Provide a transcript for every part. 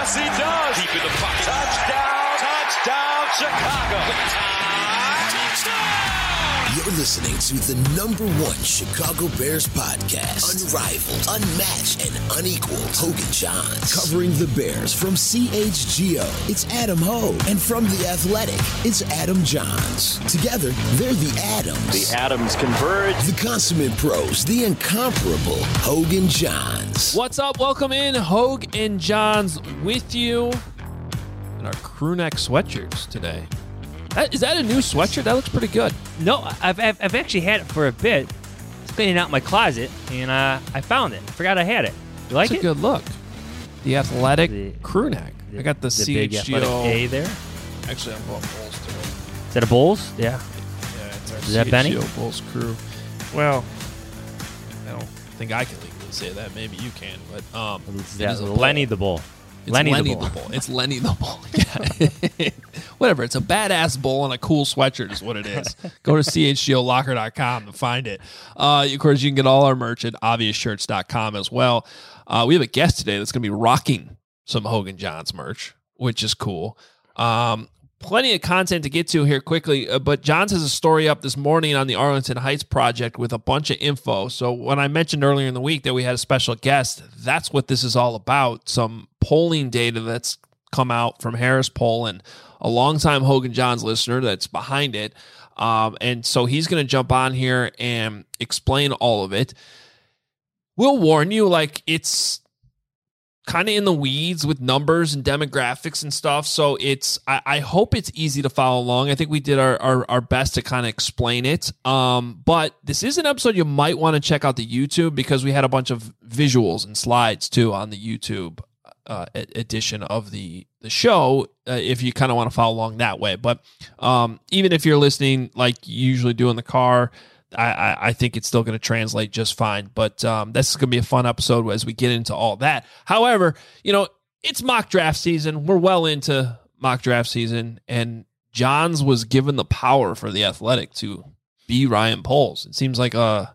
Yes, he does. Deep in the pocket. Touchdown, Chicago. You're listening to the #1 Chicago Bears podcast. Unrivaled, unmatched, and unequaled. Hogan Johns. Covering the Bears from CHGO, it's Adam Hogue. And from The Athletic, it's Adam Johns. Together, they're the Adams. The Adams converge. The consummate pros, the incomparable Hogan Johns. What's up? Welcome in. Hogue and Johns with you in our crew neck sweatshirts today. Is that a new sweatshirt? That looks pretty good. No, I've actually had it for a bit. I was cleaning out my closet, and I found it. I forgot I had it. You like It's it? a good look. The Athletic crew neck. I got the big CHGO. Athletic A there. Actually, I'm going Bulls today. Is that a Bulls? Yeah. Yeah, it's our Is that Benny? CHGO Bulls crew. Well, I don't think I can legally say that. Maybe you can, but it is a Lenny Bull. the Bull. It's Lenny Lenny the Bull. It's Lenny the Bull. Yeah. Whatever. It's a badass bull and a cool sweatshirt is what it is. Go to chgolocker.com to find it. Of course, you can get all our merch at obviousshirts.com as well. We have a guest today that's going to be rocking some Hogan Johns merch, which is cool. Plenty of content to get to here quickly, but Johns has a story up this morning on the Arlington Heights Project with a bunch of info. So when I mentioned earlier in the week that we had a special guest, that's what this is all about. Some polling data that's come out from Harris Poll and a longtime Hogan Johns listener that's behind it. And so he's going to jump on here and explain all of it. We'll warn you, it's kind of in the weeds with numbers and demographics and stuff. So I hope it's easy to follow along. I think we did our best to kind of explain it. But this is an episode you might want to check out the YouTube because we had a bunch of visuals and slides too on the YouTube edition of the show if you kind of want to follow along that way. But even if you're listening like you usually do in the car, I think it's still going to translate just fine. But this is going to be a fun episode as we get into all that. However, it's mock draft season. We're well into mock draft season, and Johns was given the power for the Athletic to be Ryan Poles. It seems like a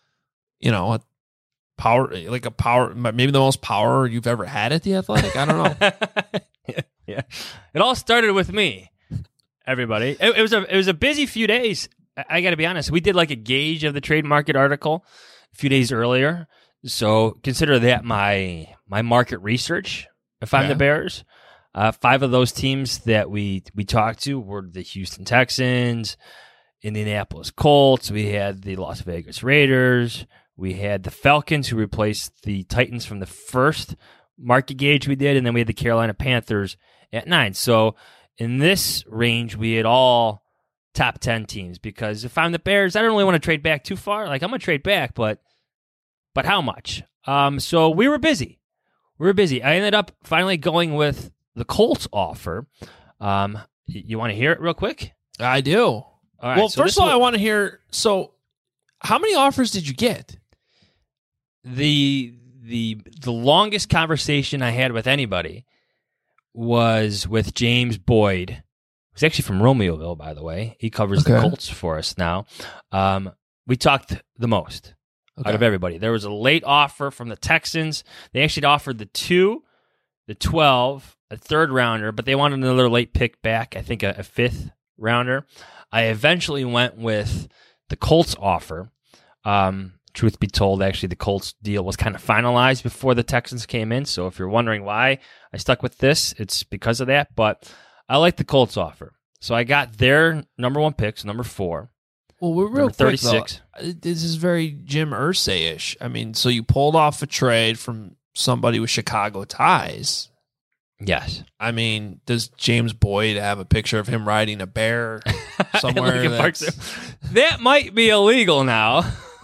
power, maybe the most power you've ever had at the Athletic. I don't know. Yeah. It all started with me, everybody. It was a busy few days. I got to be honest. We did like a gauge of the trade market article a few days earlier. So consider that my market research if I'm the Bears. 5 of those teams that we talked to were the Houston Texans, Indianapolis Colts. We had the Las Vegas Raiders. We had the Falcons, who replaced the Titans from the first market gauge we did. And then we had the Carolina Panthers at 9. So in this range, we had all top 10 teams, because if I'm the Bears, I don't really want to trade back too far. I'm going to trade back, but how much? So we were busy. I ended up finally going with the Colts offer. You want to hear it real quick? I do. All right, well, so first of all, I want to hear, so how many offers did you get? The longest conversation I had with anybody was with James Boyd. He's actually from Romeoville, by the way. He covers the Colts for us now. We talked the most out of everybody. There was a late offer from the Texans. They actually offered the 2, the 12, a third rounder, but they wanted another late pick back, I think a fifth rounder. I eventually went with the Colts offer. Truth be told, actually, the Colts deal was kind of finalized before the Texans came in. So if you're wondering why I stuck with this, it's because of that. But I like the Colts offer. So I got their number 1 picks, number 4. Well, we're real number 36. Quick, though. This is very Jim Irsay-ish. I mean, so you pulled off a trade from somebody with Chicago ties. Yes. I mean, does James Boyd have a picture of him riding a bear somewhere? That might be illegal now.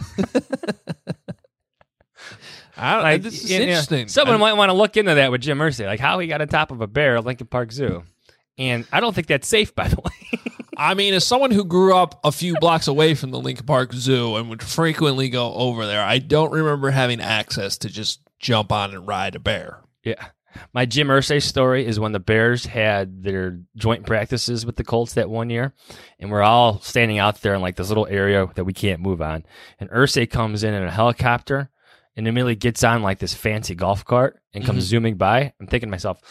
This is interesting. Someone might want to look into that with Jim Irsay, like how he got on top of a bear at Lincoln Park Zoo. And I don't think that's safe, by the way. I mean, as someone who grew up a few blocks away from the Lincoln Park Zoo and would frequently go over there, I don't remember having access to just jump on and ride a bear. Yeah. My Jim Irsay story is when the Bears had their joint practices with the Colts that one year, and we're all standing out there in like this little area that we can't move on. And Irsay comes in a helicopter and immediately gets on like this fancy golf cart and comes zooming by. I'm thinking to myself,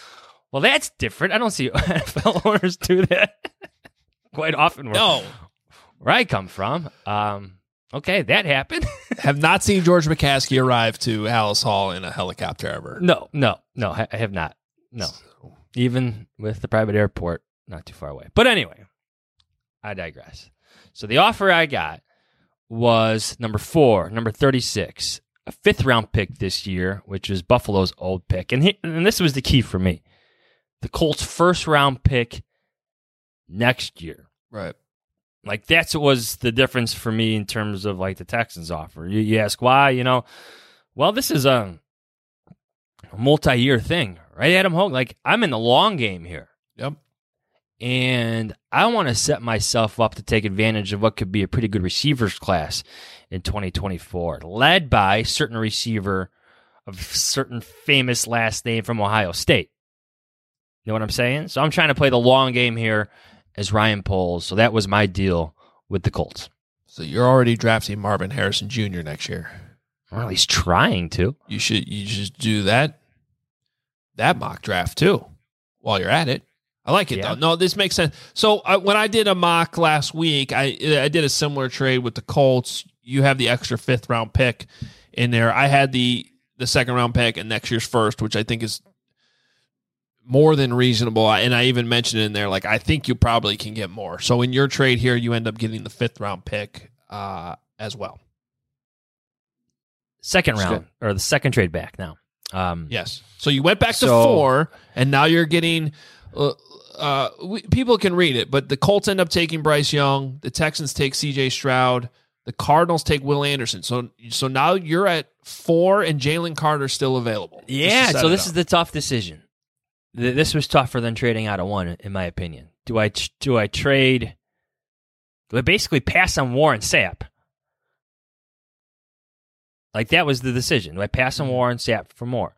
Well, that's different. I don't see NFL owners do that quite often. Where I come from. Okay, that happened. Have not seen George McCaskey arrive to Hallis Hall in a helicopter ever. No, I have not. No. Even with the private airport not too far away. But anyway, I digress. So the offer I got was number 4, number 36, a 5th-round pick this year, which is Buffalo's old pick. And this was the key for me. The Colts' 1st-round pick next year. Right. Like, that's what was the difference for me in terms of, like, the Texans offer. You ask why, well, this is a multi-year thing, right, Adam Hogue? Like, I'm in the long game here. Yep. And I want to set myself up to take advantage of what could be a pretty good receivers class in 2024, led by a certain receiver of a certain famous last name from Ohio State. You know what I'm saying? So I'm trying to play the long game here as Ryan Poles. So that was my deal with the Colts. So you're already drafting Marvin Harrison Jr. next year. Well, he's trying to. You should do that mock draft too while you're at it. I like it though. No, this makes sense. So when I did a mock last week, I did a similar trade with the Colts. You have the extra 5th-round pick in there. I had the 2nd-round pick and next year's 1st, which I think is more than reasonable. And I even mentioned in there, like, I think you probably can get more. So in your trade here, you end up getting the 5th-round pick as well. 2nd round, or the 2nd trade back now. Yes. So you went back to 4, and now you're getting people can read it, but the Colts end up taking Bryce Young. The Texans take C.J. Stroud. The Cardinals take Will Anderson. So now you're at 4, and Jalen Carter still available. Yeah, so this is the tough decision. This was tougher than trading out of 1, in my opinion. Do I trade? Do I basically pass on Warren Sapp? Like, that was the decision. Do I pass on Warren Sapp for more?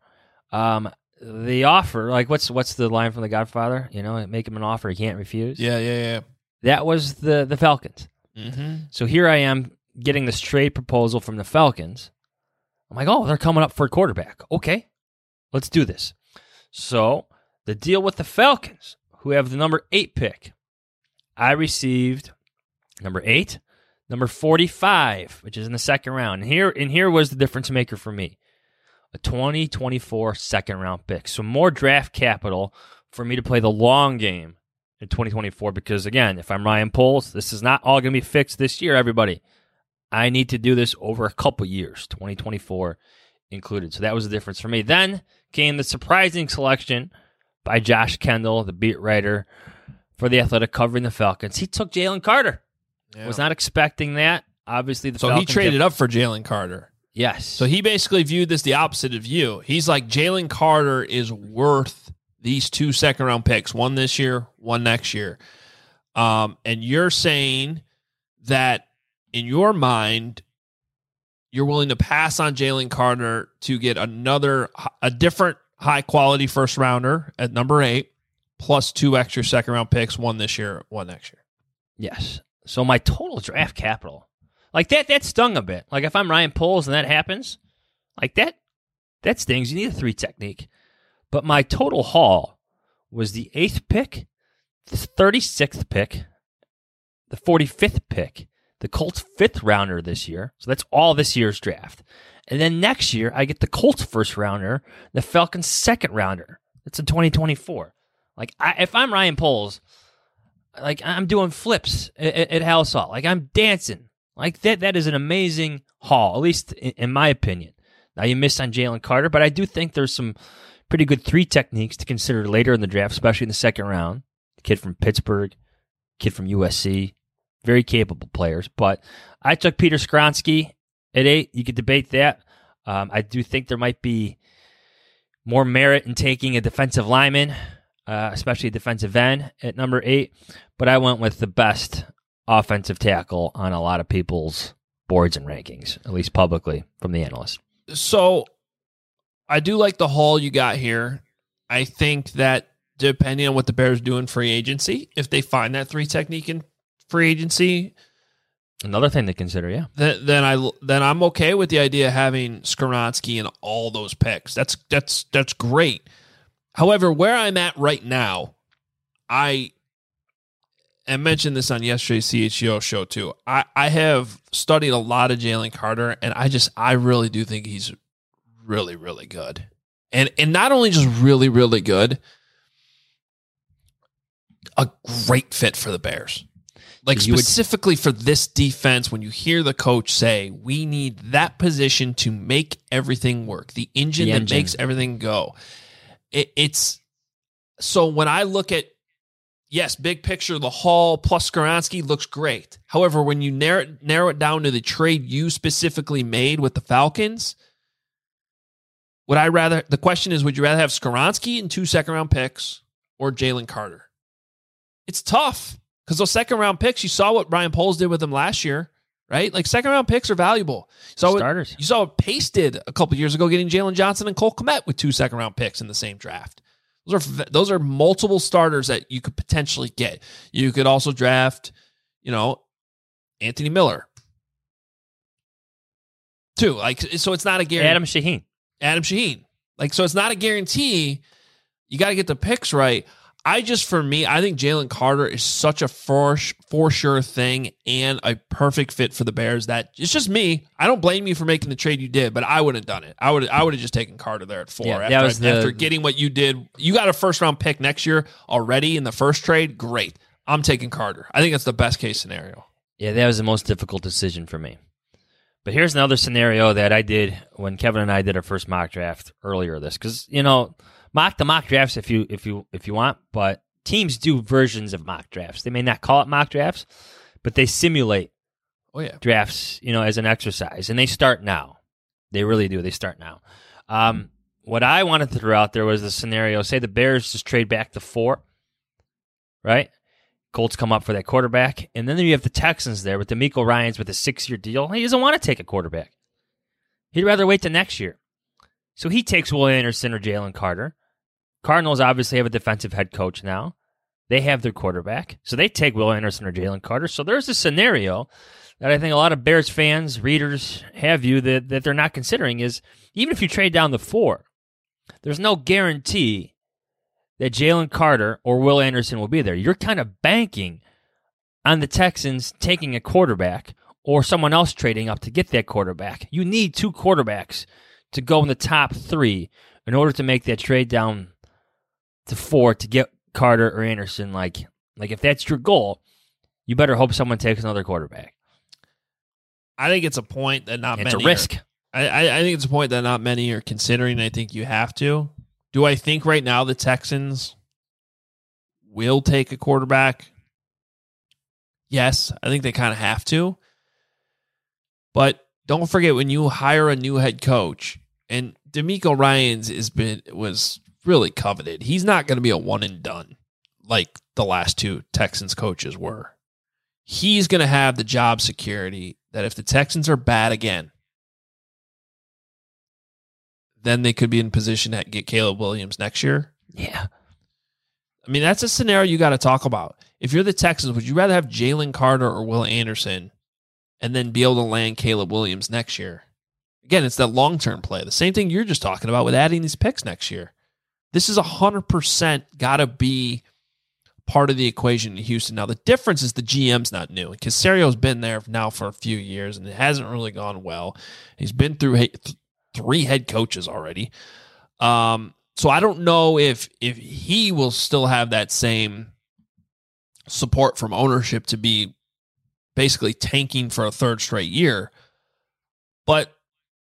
The offer, like, what's the line from The Godfather? Make him an offer he can't refuse. Yeah. That was the Falcons. Mm-hmm. So here I am getting this trade proposal from the Falcons. I'm like, oh, they're coming up for a quarterback. Okay, let's do this. So the deal with the Falcons, who have the number 8 pick, I received number 8, number 45, which is in the 2nd round. And here was the difference maker for me. A 2024 2nd-round pick. So more draft capital for me to play the long game in 2024 because, again, if I'm Ryan Poles, this is not all going to be fixed this year, everybody. I need to do this over a couple years, 2024 included. So that was the difference for me. Then came the surprising selection by Josh Kendall, the beat writer for The Athletic covering the Falcons. He took Jalen Carter. Yeah. Was not expecting that. Obviously, the Falcons... So he traded up for Jalen Carter. Yes. So he basically viewed this the opposite of you. He's like, Jalen Carter is worth these 2 2nd-round picks, 1 this year, 1 next year. And you're saying that in your mind, you're willing to pass on Jalen Carter to get a different high-quality first-rounder at number 8, plus 2 extra 2nd-round picks, 1 this year, 1 next year. Yes. So my total draft capital... Like, that stung a bit. Like, if I'm Ryan Poles and that happens, like, that stings. You need a 3 technique. But my total haul was the 8th pick, the 36th pick, the 45th pick, the Colts 5th rounder this year. So that's all this year's draft. And then next year, I get the Colts 1st rounder, the Falcons 2nd rounder. That's in 2024. Like, if I'm Ryan Poles, like, I'm doing flips at Hallis Hall. Like, I'm dancing. Like, that is an amazing haul, at least in my opinion. Now, you missed on Jalen Carter, but I do think there's some pretty good 3 techniques to consider later in the draft, especially in the 2nd round. Kid from Pittsburgh, kid from USC, very capable players. But I took Peter Skronsky at 8. You could debate that. I do think there might be more merit in taking a defensive lineman, especially a defensive end at number 8. But I went with the best offensive tackle on a lot of people's boards and rankings, at least publicly from the analysts. So I do like the haul you got here. I think that depending on what the Bears do in free agency, if they find that 3 technique in free agency, another thing to consider, yeah. Then I'm okay with the idea of having Skoronski in all those picks. That's great. However, where I'm at right now, I mentioned this on yesterday's CHGO show too. I have studied a lot of Jalen Carter, and I really do think he's really, really good. And not only just really, really good, a great fit for the Bears. Like specifically for this defense, when you hear the coach say, we need that position to make everything work, the engine that makes everything go. It's so when I look at, yes, big picture, the Hall plus Skoronski looks great. However, when you narrow it down to the trade you specifically made with the Falcons, the question is, would you rather have Skoronski and 2 second-round picks or Jalen Carter? It's tough because those second-round picks, you saw what Ryan Poles did with them last year, right? Like second-round picks are valuable. Starters. You saw what Pace did a couple years ago, getting Jalen Johnson and Cole Kmet with 2 second-round picks in the same draft. Those are multiple starters that you could potentially get. You could also draft, Anthony Miller, too. Like, so it's not a guarantee. Adam Shaheen. Like, so it's not a guarantee. You got to get the picks right. I think Jalen Carter is such a for sure thing and a perfect fit for the Bears that it's just me. I don't blame you for making the trade you did, but I wouldn't have done it. I would have just taken Carter there at 4 after getting what you did. You got a first round pick next year already in the first trade. Great. I'm taking Carter. I think that's the best case scenario. Yeah, that was the most difficult decision for me. But here's another scenario that I did when Kevin and I did our first mock draft earlier this, because mock drafts if you want, but teams do versions of mock drafts. They may not call it mock drafts, but they simulate drafts, as an exercise, and they start now. They really do. They start now. What I wanted to throw out there was the scenario: say the Bears just trade back to 4, right? Colts come up for that quarterback, and then you have the Texans there with DeMeco Ryans with a 6-year deal. He doesn't want to take a quarterback. He'd rather wait till next year. So he takes Will Anderson or Jalen Carter. Cardinals obviously have a defensive head coach now. They have their quarterback. So they take Will Anderson or Jalen Carter. So there's a scenario that I think a lot of Bears fans, readers have you that they're not considering is even if you trade down the 4, there's no guarantee that Jalen Carter or Will Anderson will be there. You're kind of banking on the Texans taking a quarterback or someone else trading up to get that quarterback. You need 2 quarterbacks to go in the top 3 in order to make that trade down to 4 to get Carter or Anderson. Like if that's your goal, you better hope someone takes another quarterback. I think it's a point that not many. It's a risk. I think it's a point that not many are considering. I think you have to. Do I think right now the Texans will take a quarterback? Yes, I think they kind of have to. But don't forget, when you hire a new head coach, and DeMeco Ryans was really coveted. He's not going to be a one and done like the last 2 Texans coaches were. He's going to have the job security that if the Texans are bad again, then they could be in position to get Caleb Williams next year. Yeah. I mean, that's a scenario you got to talk about. If you're the Texans, would you rather have Jalen Carter or Will Anderson and then be able to land Caleb Williams next year? Again, it's that long-term play. The same thing you're just talking about with adding these picks next year. This is 100% got to be part of the equation in Houston. Now, the difference is the GM's not new. Caserio's been there now for a few years, and it hasn't really gone well. He's been through 3 head coaches already. So I don't know if he will still have that same support from ownership to be basically tanking for a 3rd straight year. But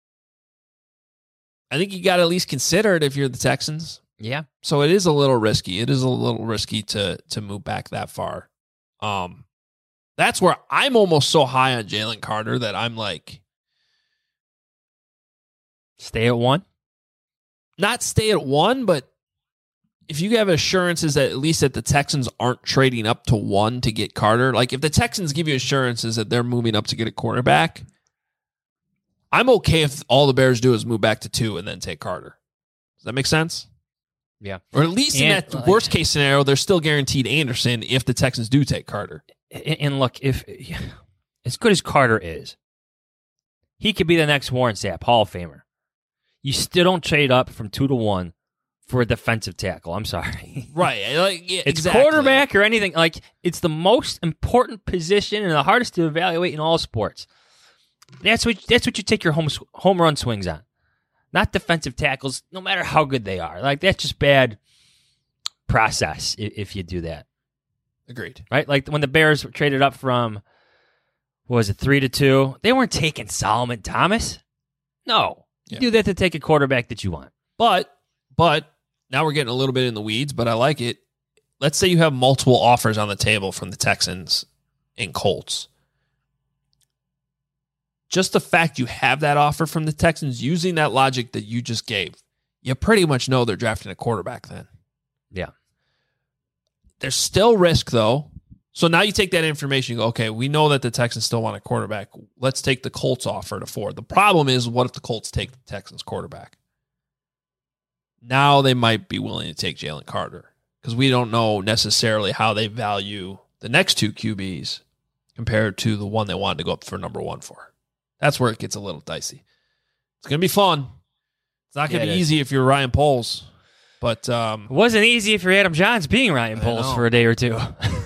I think you got to at least consider it if you're the Texans. Yeah. So it is a little risky. It is a little risky to move back that far. That's where I'm almost so high on Jalen Carter that I'm like, stay at 1? Not stay at 1, but if you have assurances that at least that the Texans aren't trading up to 1 to get Carter, like if the Texans give you assurances that they're moving up to get a quarterback, I'm okay if all the Bears do is move back to 2 and then take Carter. Does that make sense? Yeah. Or at least in that worst case scenario, they're still guaranteed Anderson if the Texans do take Carter. And look, if as good as Carter is, he could be the next Warren Sapp, Hall of Famer. You still don't trade up from 2 to 1 for a defensive tackle. I'm sorry. Right. Like, yeah, It's exactly. quarterback or anything. Like, it's the most important position and the hardest to evaluate in all sports. That's what you take your home run swings on. Not defensive tackles, no matter how good they are. Like, that's just bad process if you do that. Agreed. Right? Like, when the Bears traded up from, what was it, 3-2, they weren't taking Solomon Thomas. No. You do that to take a quarterback that you want. But now we're getting a little bit in the weeds, but I like it. Let's say you have multiple offers on the table from the Texans and Colts. Just the fact you have that offer from the Texans, using that logic that you just gave, you pretty much know they're drafting a quarterback then. Yeah. There's still risk, though. So now you take that information, you go, okay, we know that the Texans still want a quarterback. Let's take the Colts offer to Ford. The problem is, what if the Colts take the Texans quarterback? Now they might be willing to take Jalen Carter because we don't know necessarily how they value the next two QBs compared to the one they wanted to go up for number one for. That's where it gets a little dicey. It's going to be fun. It's not going to be easy if you're Ryan Poles. But it wasn't easy for Adam Johns being Ryan Poles for a day or two.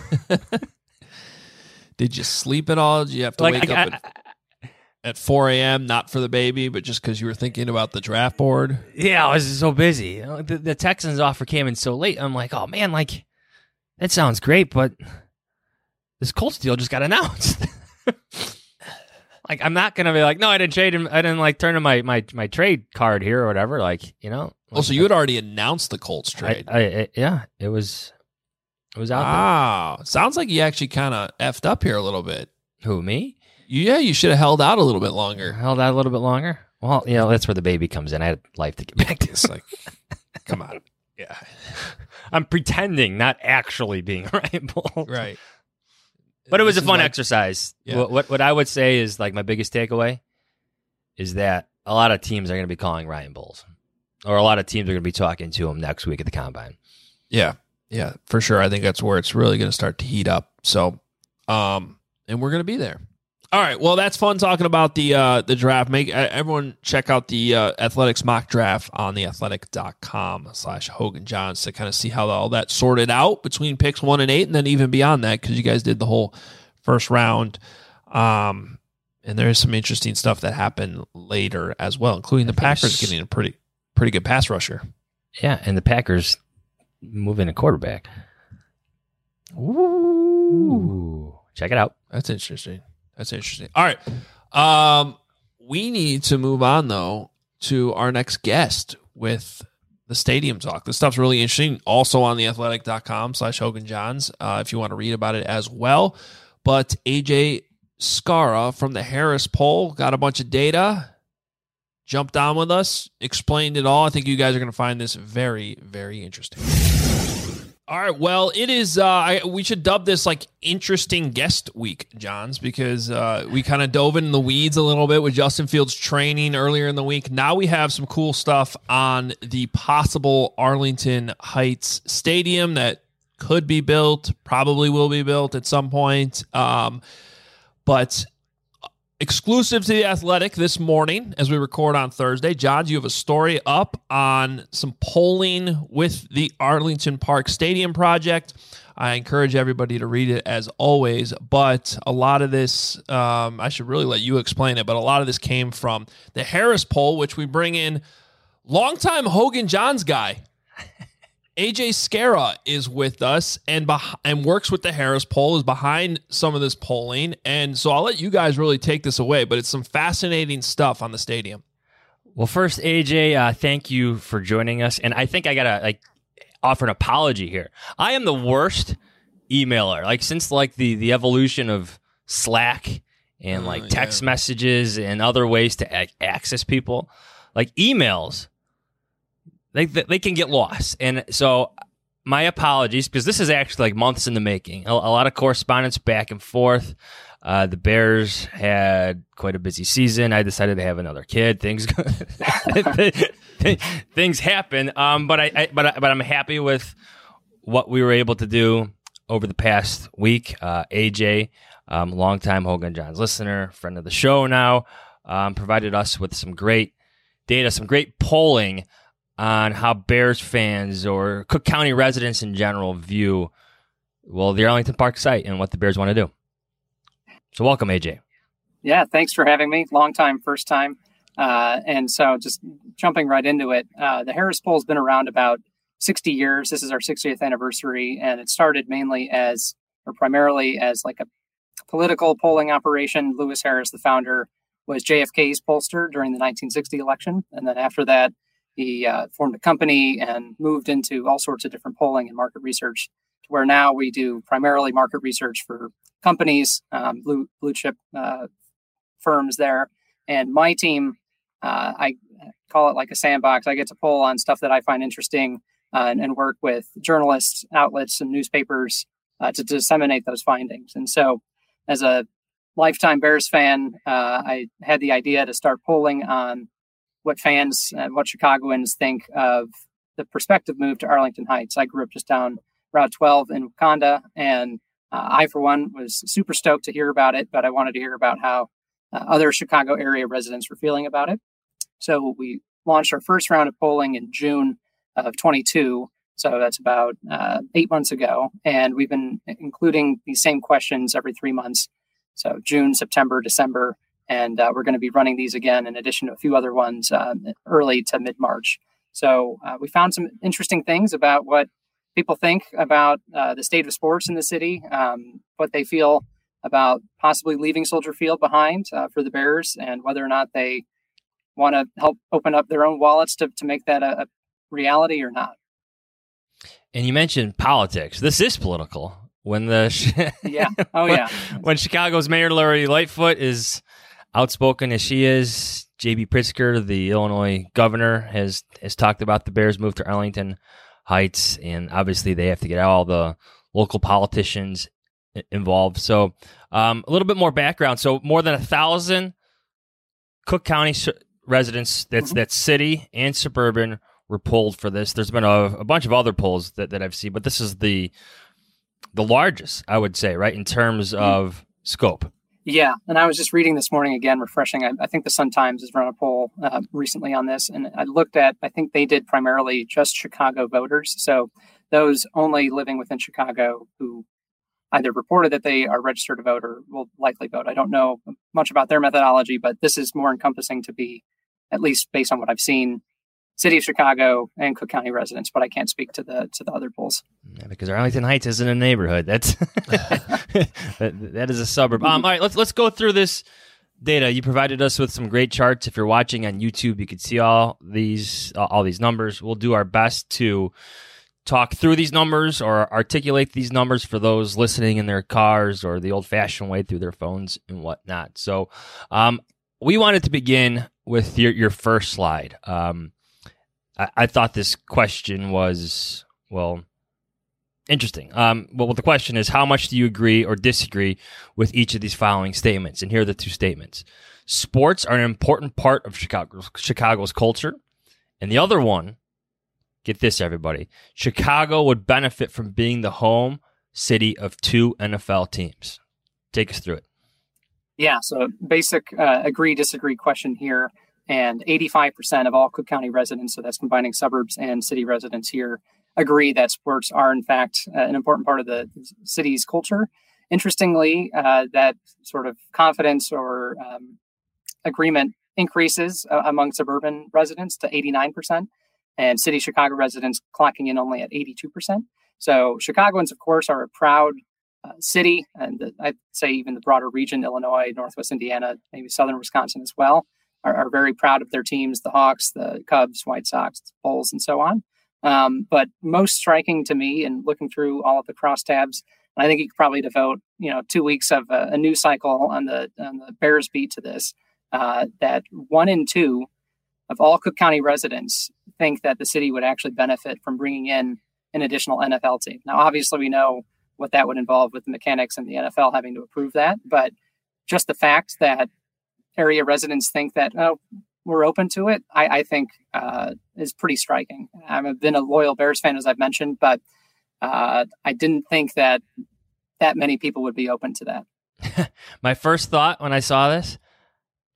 Did you sleep at all? Did you have to wake up at 4 a.m., not for the baby, but just because you were thinking about the draft board? Yeah, I was so busy. The Texans offer came in so late. I'm like, oh, man, like, that sounds great, but this Colts deal just got announced. Like, I'm not going to be like, no, I didn't trade him. I didn't, like, turn in my trade card here or whatever. Like, you know. Like, so you had already announced the Colts trade. Yeah, it was out there. Wow. Sounds like you actually kind of effed up here a little bit. Who, me? Yeah, you should have held out a little bit longer. Held out a little bit longer? Well, you know, that's where the baby comes in. I had life to get back to. It's like, come on. Yeah. I'm pretending, not actually being Ryan Poles. Right. But it was a fun exercise. Yeah. What I would say is, like, my biggest takeaway is that a lot of teams are going to be calling Ryan Poles, or a lot of teams are going to be talking to him next week at the Combine. Yeah, for sure. I think that's where it's really going to start to heat up. So, and we're going to be there. All right. Well, that's fun talking about the draft. Make everyone check out the Athletics mock draft on theathletic.com/Hogan Johns to kind of see how all that sorted out between picks 1 and 8, and then even beyond that, because you guys did the whole first round. And there is some interesting stuff that happened later as well, including the Packers getting a pretty good pass rusher. Yeah, and the Packers moving a quarterback. Ooh. Check it out. That's interesting. All right. We need to move on, though, to our next guest with the Stadium Talk. This stuff's really interesting. Also on theathletic.com/Hogan Johns, if you want to read about it as well. But AJ Skara from the Harris Poll got a bunch of data, jumped on with us, explained it all. I think you guys are going to find this very, very interesting. All right, well, it is, we should dub this like interesting guest week, Johns, because we kind of dove in the weeds a little bit with Justin Fields training earlier in the week. Now we have some cool stuff on the possible Arlington Heights Stadium that could be built, probably will be built at some point. But exclusive to The Athletic this morning, as we record on Thursday, Johns, you have a story up on some polling with the Arlington Park Stadium project. I encourage everybody to read it as always, but a lot of this, I should really let you explain it, but a lot of this came from the Harris Poll, which we bring in longtime Hogan Johns guy. AJ Skara is with us and works with the Harris Poll, is behind some of this polling. And so I'll let you guys really take this away, but it's some fascinating stuff on the stadium. Well, first, AJ, thank you for joining us. And I think I got to offer an apology here. I am the worst emailer. Since the evolution of Slack and text messages and other ways to access people, emails, They can get lost. And so my apologies, because this is actually months in the making. A lot of correspondence back and forth. The Bears had quite a busy season. I decided to have another kid. Things happen. But I'm happy with what we were able to do over the past week. AJ, longtime Hogan Johns listener, friend of the show now, provided us with some great data, some great polling on how Bears fans or Cook County residents in general view, well, the Arlington Park site and what the Bears want to do. So welcome, AJ. Yeah, thanks for having me. Long time, first time. And so just jumping right into it, the Harris Poll has been around about 60 years. This is our 60th anniversary, and it started primarily as like a political polling operation. Lewis Harris, the founder, was JFK's pollster during the 1960 election. And then after that, he formed a company and moved into all sorts of different polling and market research, to where now we do primarily market research for companies, blue chip firms there. And my team, I call it like a sandbox. I get to poll on stuff that I find interesting and work with journalists, outlets, and newspapers to disseminate those findings. And so as a lifetime Bears fan, I had the idea to start polling on what fans and what Chicagoans think of the prospective move to Arlington Heights. I grew up just down Route 12 in Wakanda, and I, for one, was super stoked to hear about it, but I wanted to hear about how other Chicago area residents were feeling about it. So we launched our first round of polling in June of 22. So that's about 8 months ago. And we've been including these same questions every 3 months. So June, September, December. And we're going to be running these again in addition to a few other ones early to mid-March. So we found some interesting things about what people think about the state of sports in the city, what they feel about possibly leaving Soldier Field behind for the Bears, and whether or not they want to help open up their own wallets to make that a reality or not. And you mentioned politics. This is political. When when Chicago's Mayor Lori Lightfoot is outspoken as she is, J.B. Pritzker, the Illinois governor, has talked about the Bears' move to Arlington Heights, and obviously they have to get all the local politicians involved. So a little bit more background. So more than 1,000 Cook County residents, that's city and suburban, were polled for this. There's been a bunch of other polls that I've seen, but this is the largest, I would say, right, in terms of scope. Yeah, and I was just reading this morning again, refreshing. I think the Sun-Times has run a poll recently on this, and I looked at, I think they did primarily just Chicago voters. So those only living within Chicago who either reported that they are registered to vote or will likely vote. I don't know much about their methodology, but this is more encompassing to be, at least based on what I've seen, City of Chicago and Cook County residents, but I can't speak to the other polls. Yeah, because Arlington Heights isn't a neighborhood. That's that is a suburb. All right, let's go through this data. You provided us with some great charts. If you're watching on YouTube, you can see all these numbers. We'll do our best to talk through these numbers or articulate these numbers for those listening in their cars or the old-fashioned way through their phones and whatnot. So we wanted to begin with your first slide. I thought this question was, interesting. Well, the question is, how much do you agree or disagree with each of these following statements? And here are the two statements. Sports are an important part of Chicago's culture. And the other one, get this, everybody, Chicago would benefit from being the home city of 2 NFL teams. Take us through it. Yeah, so basic agree, disagree question here. And 85% of all Cook County residents, so that's combining suburbs and city residents here, agree that sports are, in fact, an important part of the city's culture. Interestingly, that sort of confidence or agreement increases among suburban residents to 89%, and city Chicago residents clocking in only at 82%. So Chicagoans, of course, are a proud city, and I'd say even the broader region, Illinois, Northwest Indiana, maybe southern Wisconsin as well, are very proud of their teams, the Hawks, the Cubs, White Sox, Bulls, and so on. But most striking to me, in looking through all of the crosstabs, and I think you could probably devote 2 weeks of a news cycle on the Bears beat to this, that 1 in 2 of all Cook County residents think that the city would actually benefit from bringing in an additional NFL team. Now, obviously, we know what that would involve with the mechanics and the NFL having to approve that, but just the fact that area residents think that, we're open to it, I think is pretty striking. I've been a loyal Bears fan, as I've mentioned, but I didn't think that many people would be open to that. My first thought when I saw this,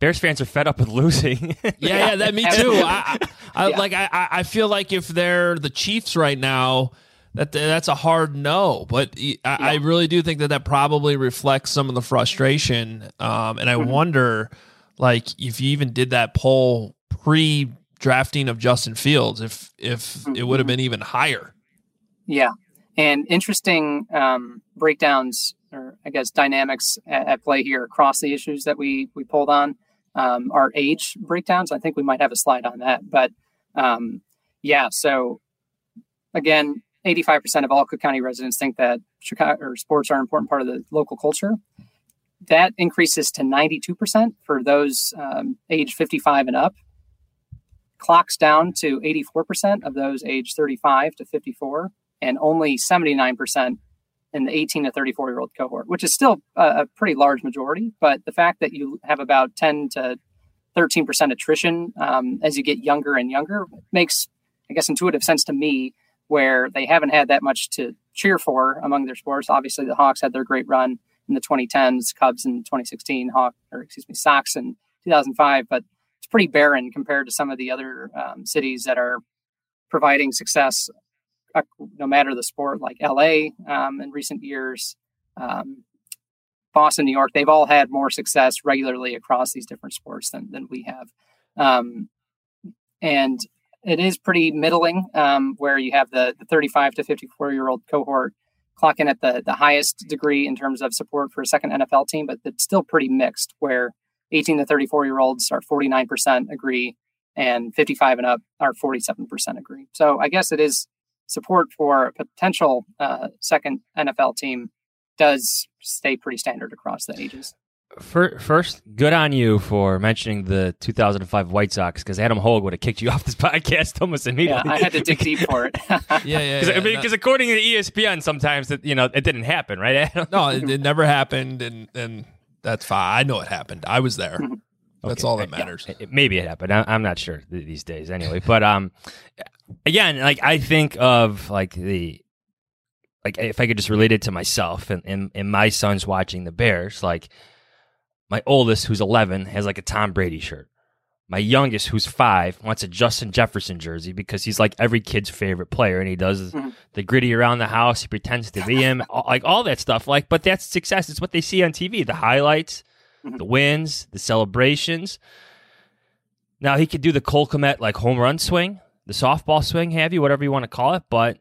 Bears fans are fed up with losing. Yeah, that me too. I feel like if they're the Chiefs right now, that's a hard no. But I really do think that probably reflects some of the frustration. And I wonder, like, if you even did that poll pre-drafting of Justin Fields, if it would have been even higher. Yeah, and interesting breakdowns, or I guess dynamics at play here across the issues that we polled on. Our age breakdowns. I think we might have a slide on that. But so again, 85% of all Cook County residents think that Chicago or sports are an important part of the local culture. That increases to 92% for those age 55 and up. Clocks down to 84% of those age 35 to 54, and only 79% in the 18 to 34-year-old cohort, which is still a pretty large majority. But the fact that you have about 10 to 13% attrition as you get younger and younger makes, I guess, intuitive sense to me, where they haven't had that much to cheer for among their sports. Obviously, the Hawks had their great run in the 2010s, Cubs in 2016, Sox in 2005, but it's pretty barren compared to some of the other cities that are providing success no matter the sport, like LA in recent years, Boston, New York. They've all had more success regularly across these different sports than we have. And it is pretty middling, where you have the 35 to 54-year-old cohort clocking at the highest degree in terms of support for a second NFL team, but it's still pretty mixed, where 18 to 34-year-olds are 49% agree, and 55 and up are 47% agree. So I guess it is support for a potential second NFL team does stay pretty standard across the ages. First, good on you for mentioning the 2005 White Sox, because Adam Hogue would have kicked you off this podcast almost immediately. Yeah, I had to dig deep for it. Because according to ESPN, sometimes it didn't happen, right, Adam? No, it never happened, and that's fine. I know it happened. I was there. That's all that matters. Yeah, maybe it happened. I'm not sure these days, anyway. But again, like, I think of if I could just relate it to myself and my son's watching the Bears, like, my oldest, who's 11, has like a Tom Brady shirt. My youngest, who's 5, wants a Justin Jefferson jersey because he's like every kid's favorite player, and he does the gritty around the house. He pretends to be him, like all that stuff. Like, but that's success. It's what they see on TV: the highlights, the wins, the celebrations. Now he could do the Cole Kmet like home run swing, the softball swing, whatever you want to call it. But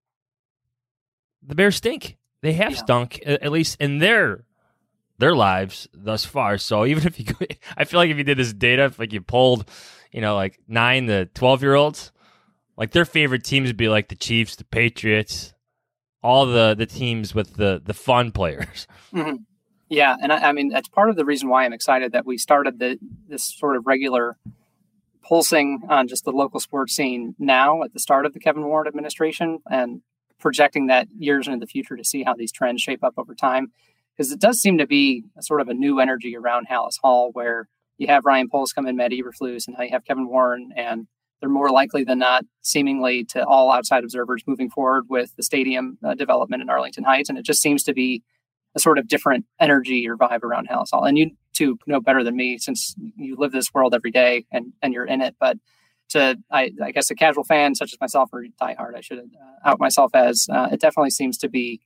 the Bears stink. They have stunk, at least in their lives thus far. So even if I feel like if you did this data, if like you polled, like 9 to 12-year-olds, like their favorite teams would be like the Chiefs, the Patriots, all the teams with the fun players. Mm-hmm. Yeah, and I mean, that's part of the reason why I'm excited that we started this sort of regular pulsing on just the local sports scene now at the start of the Kevin Warren administration, and projecting that years into the future to see how these trends shape up over time. Because it does seem to be a sort of a new energy around Halas Hall, where you have Ryan Poles come in, Matt Eberflus, and now you have Kevin Warren, and they're more likely than not, seemingly to all outside observers, moving forward with the stadium development in Arlington Heights. And it just seems to be a sort of different energy or vibe around Halas Hall. And you two know better than me, since you live this world every day and you're in it. But I guess a casual fan such as myself, or diehard, I should out myself as, it definitely seems to be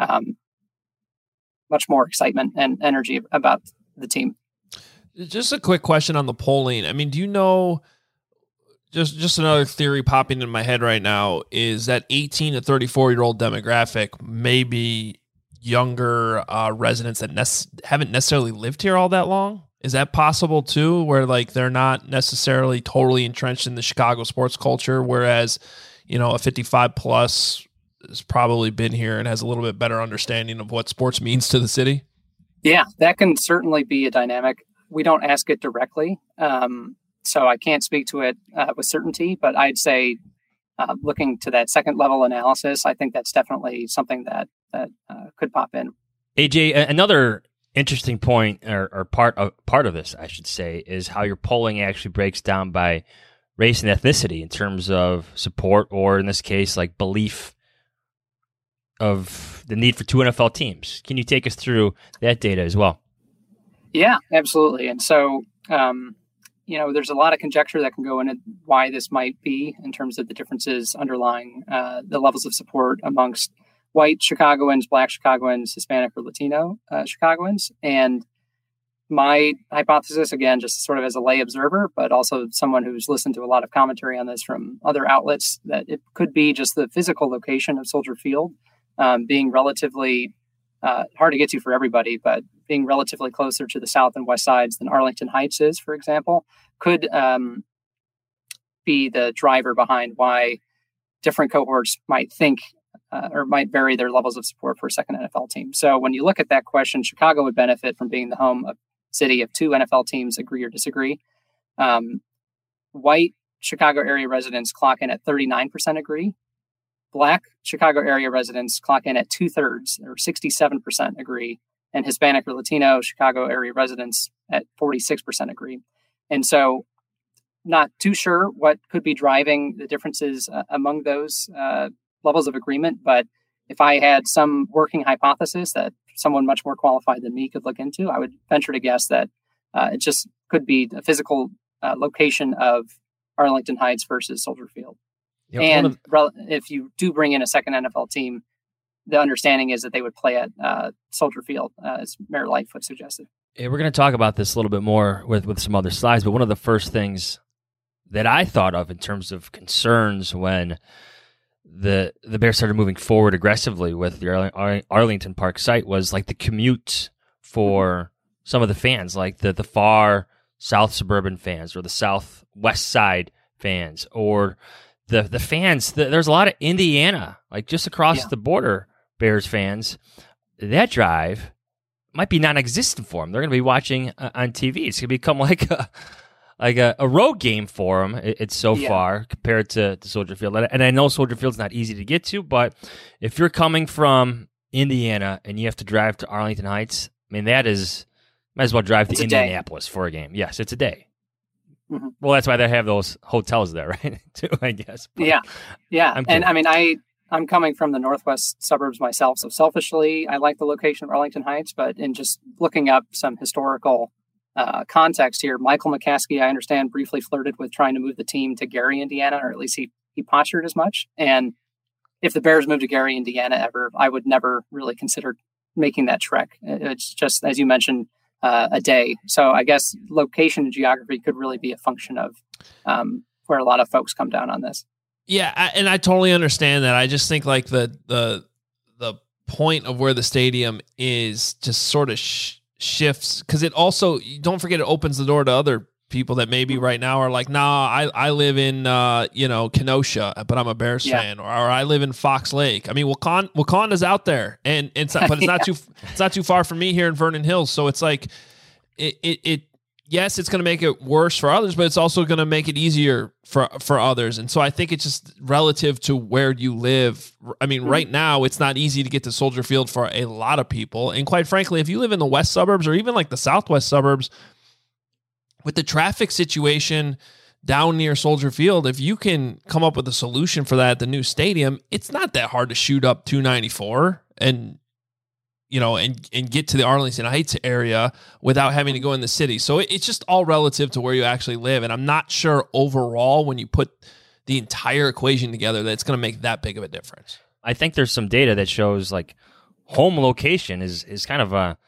much more excitement and energy about the team. Just a quick question on the polling. I mean, do you know, just another theory popping in my head right now, is that 18 to 34-year-old demographic may be younger residents that haven't necessarily lived here all that long? Is that possible too, where like they're not necessarily totally entrenched in the Chicago sports culture, whereas, a 55 plus has probably been here and has a little bit better understanding of what sports means to the city? Yeah, that can certainly be a dynamic. We don't ask it directly, so I can't speak to it with certainty, but I'd say looking to that second level analysis, I think that's definitely something that could pop in. AJ, another interesting point or part of this, I should say, is how your polling actually breaks down by race and ethnicity in terms of support, or in this case, like belief of the need for 2 NFL teams. Can you take us through that data as well? Yeah, absolutely. And so There's a lot of conjecture that can go into why this might be in terms of the differences underlying the levels of support amongst white Chicagoans, Black Chicagoans, Hispanic or Latino Chicagoans. And my hypothesis, again, just sort of as a lay observer, but also someone who's listened to a lot of commentary on this from other outlets, that it could be just the physical location of Soldier Field being relatively hard to get to for everybody, but being relatively closer to the south and west sides than Arlington Heights is, for example, could be the driver behind why different cohorts might think or might vary their levels of support for a second NFL team. So when you look at that question, Chicago would benefit from being the home of city of two NFL teams, agree or disagree. White Chicago area residents clock in at 39% agree. Black Chicago area residents clock in at 2/3 or 67% agree. And Hispanic or Latino Chicago area residents at 46% agree. And so not too sure what could be driving the differences among those levels of agreement. But if I had some working hypothesis that someone much more qualified than me could look into, I would venture to guess that it just could be the physical location of Arlington Heights versus Soldier Field. Yep. And if you do bring in a second NFL team, the understanding is that they would play at Soldier Field, as Mayor Lightfoot suggested. Yeah, we're going to talk about this a little bit more with some other slides, but one of the first things that I thought of in terms of concerns when the Bears started moving forward aggressively with the Arlington Park site was like the commute for some of the fans, like the far south suburban fans or the southwest side fans, or the fans. There's a lot of Indiana, like just across the border, Bears fans. That drive might be non-existent for them. They're going to be watching on TV. It's going to become like a road game for them. It's so far compared to Soldier Field. And I know Soldier Field's not easy to get to, but if you're coming from Indiana and you have to drive to Arlington Heights, I mean, might as well drive to Indianapolis for a game. Yes, it's a day. Mm-hmm. Well, that's why they have those hotels there, right? Too, I guess. But yeah. And I mean, I'm coming from the northwest suburbs myself, so selfishly, I like the location of Arlington Heights. But in just looking up some historical context here, Michael McCaskey, I understand, briefly flirted with trying to move the team to Gary, Indiana, or at least he postured as much. And if the Bears moved to Gary, Indiana ever, I would never really consider making that trek. It's just, as you mentioned, a day. So I guess location and geography could really be a function of where a lot of folks come down on this. Yeah, and I totally understand that. I just think like the point of where the stadium is just sort of shifts, because it also, don't forget, it opens the door to other people that maybe right now are like, nah, I live in Kenosha, but I'm a Bears fan, or I live in Fox Lake. I mean, Wakanda's out there, and it's not, but it's not too far from me here in Vernon Hills. So it's like it yes, it's going to make it worse for others, but it's also going to make it easier for others. And so I think it's just relative to where you live. I mean, right now, it's not easy to get to Soldier Field for a lot of people. And quite frankly, if you live in the west suburbs or even like the southwest suburbs, with the traffic situation down near Soldier Field, if you can come up with a solution for that at the new stadium, it's not that hard to shoot up 294 and get to the Arlington Heights area without having to go in the city. So it's just all relative to where you actually live. And I'm not sure overall, when you put the entire equation together, that it's going to make that big of a difference. I think there's some data that shows like home location is kind of a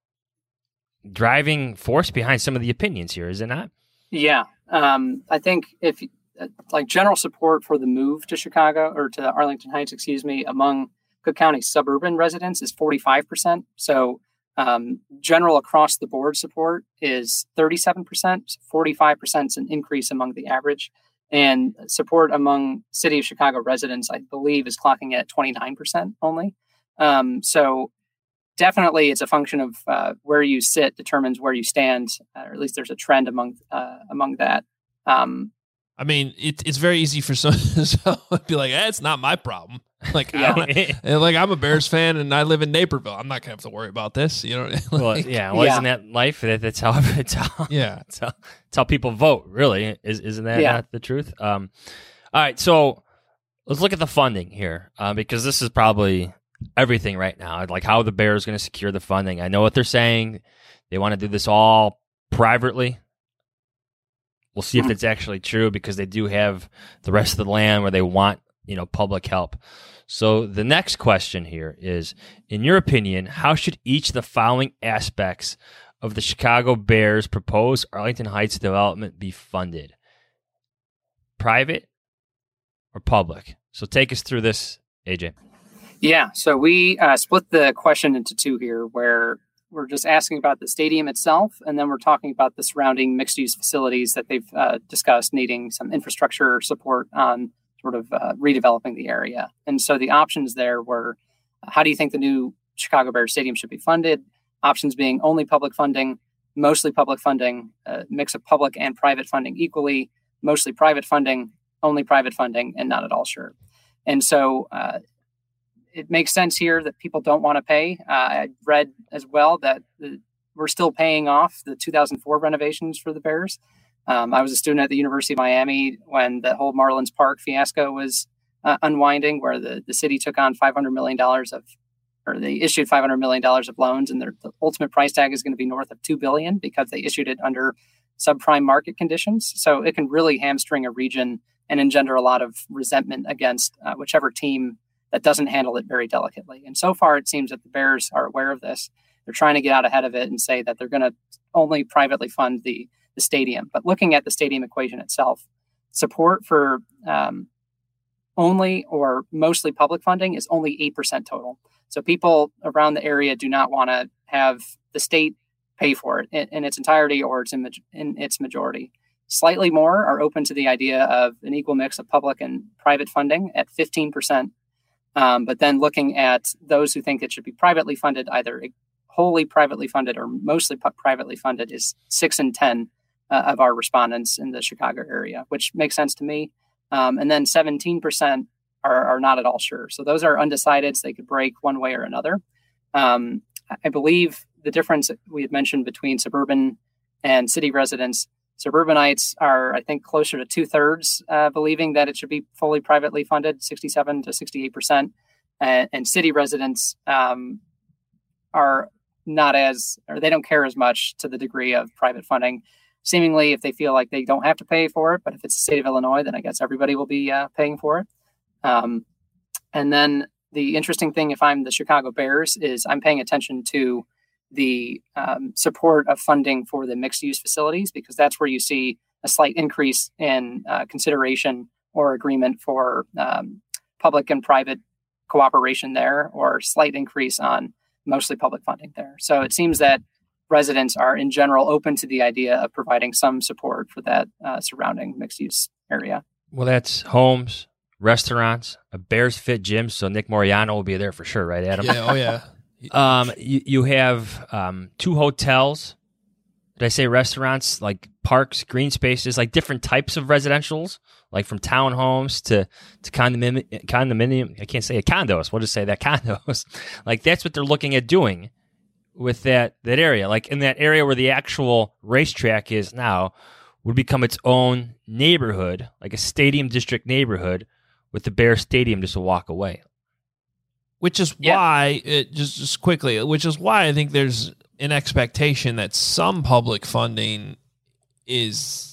driving force behind some of the opinions here, is it not? Yeah. I think if like general support for the move to Chicago, or to Arlington Heights, among Cook County suburban residents is 45%. So general across the board support is 37%. 45% is an increase among the average. And support among City of Chicago residents, I believe, is clocking at 29% only. So definitely it's a function of where you sit determines where you stand, or at least there's a trend among that. I mean, it's very easy for someone to be like, it's not my problem. Like, I'm a Bears fan and I live in Naperville. I'm not gonna have to worry about this. Isn't that life? That's how people vote. Really, isn't that not the truth? All right, so let's look at the funding here, because this is probably everything right now. Like how the Bears going to secure the funding. I know what they're saying. They want to do this all privately, We'll see if it's actually true, because they do have the rest of the land where they want, public help. So the next question here is, in your opinion, how should each of the following aspects of the Chicago Bears proposed Arlington Heights development be funded? Private or public? So take us through this, AJ. Yeah, so we split the question into two here, where we're just asking about the stadium itself, and then we're talking about the surrounding mixed-use facilities that they've discussed needing some infrastructure support on sort of redeveloping the area. And so the options there were, how do you think the new Chicago Bears Stadium should be funded? Options being only public funding, mostly public funding, a mix of public and private funding equally, mostly private funding, only private funding, and not at all sure. And so it makes sense here that people don't want to pay. I read as well that we're still paying off the 2004 renovations for the Bears. I was a student at the University of Miami when the whole Marlins Park fiasco was unwinding, where the city took on $500 million they issued $500 million of loans, and the ultimate price tag is going to be north of $2 billion because they issued it under subprime market conditions. So it can really hamstring a region and engender a lot of resentment against whichever team that doesn't handle it very delicately. And so far, it seems that the Bears are aware of this. They're trying to get out ahead of it and say that they're going to only privately fund the stadium. But looking at the stadium equation itself, support for only or mostly public funding is only 8% total. So people around the area do not want to have the state pay for it in its entirety or in its majority. Slightly more are open to the idea of an equal mix of public and private funding at 15%. But then looking at those who think it should be privately funded, either wholly privately funded or mostly privately funded, is 6 and 10 of our respondents in the Chicago area, which makes sense to me. And then 17% are not at all sure. So those are undecideds. They could break one way or another. I believe the difference we had mentioned between suburban and city residents, suburbanites are, I think, closer to 2/3 believing that it should be fully privately funded, 67 to 68%. And city residents are not as, or they don't care as much to the degree of private funding. Seemingly, if they feel like they don't have to pay for it, but if it's the state of Illinois, then I guess everybody will be paying for it. And then the interesting thing, if I'm the Chicago Bears, is I'm paying attention to the support of funding for the mixed-use facilities, because that's where you see a slight increase in consideration or agreement for public and private cooperation there, or slight increase on mostly public funding there. So it seems that residents are in general open to the idea of providing some support for that surrounding mixed-use area. Well, that's homes, restaurants, a Bears Fit gym, so Nick Moriano will be there for sure, right, Adam? Yeah, oh yeah. You have 2 hotels. Did I say restaurants? Like parks, green spaces, like different types of residentials, like from townhomes to condominium. I can't say condos. We'll just say that condos. Like that's what they're looking at doing with that area. Like in that area where the actual racetrack is now, would become its own neighborhood, like a stadium district neighborhood, with the Bears Stadium just a walk away. Which is why, just quickly, which is why I think there's an expectation that some public funding is,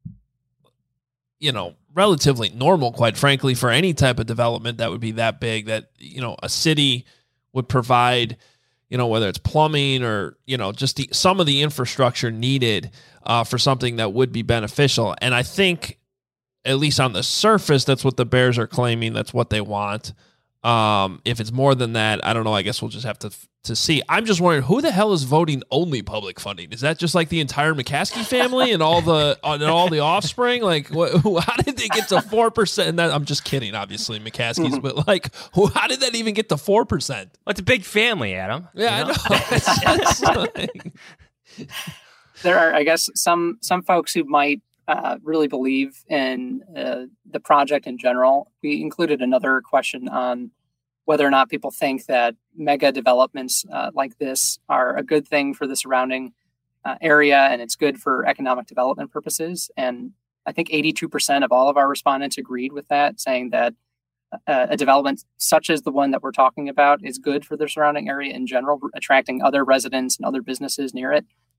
relatively normal, quite frankly, for any type of development that would be that big, that, a city would provide, whether it's plumbing or, just some of the infrastructure needed for something that would be beneficial. And I think, at least on the surface, that's what the Bears are claiming. That's what they want. If it's more than that, I don't know. I guess we'll just have to see. I'm just wondering, who the hell is voting only public funding? Is that just like the entire McCaskey family and all the offspring? Like, how did they get to 4%? And I'm just kidding, obviously, McCaskey's, but like, how did that even get to 4%? Well, it's a big family, Adam. Yeah, I know. There are, I guess, some folks who might really believe in the project in general. We included another question on whether or not people think that mega developments like this are a good thing for the surrounding area, and it's good for economic development purposes. And I think 82% of all of our respondents agreed with that, saying that a development such as the one that we're talking about is good for the surrounding area in general, attracting other residents and other businesses near it.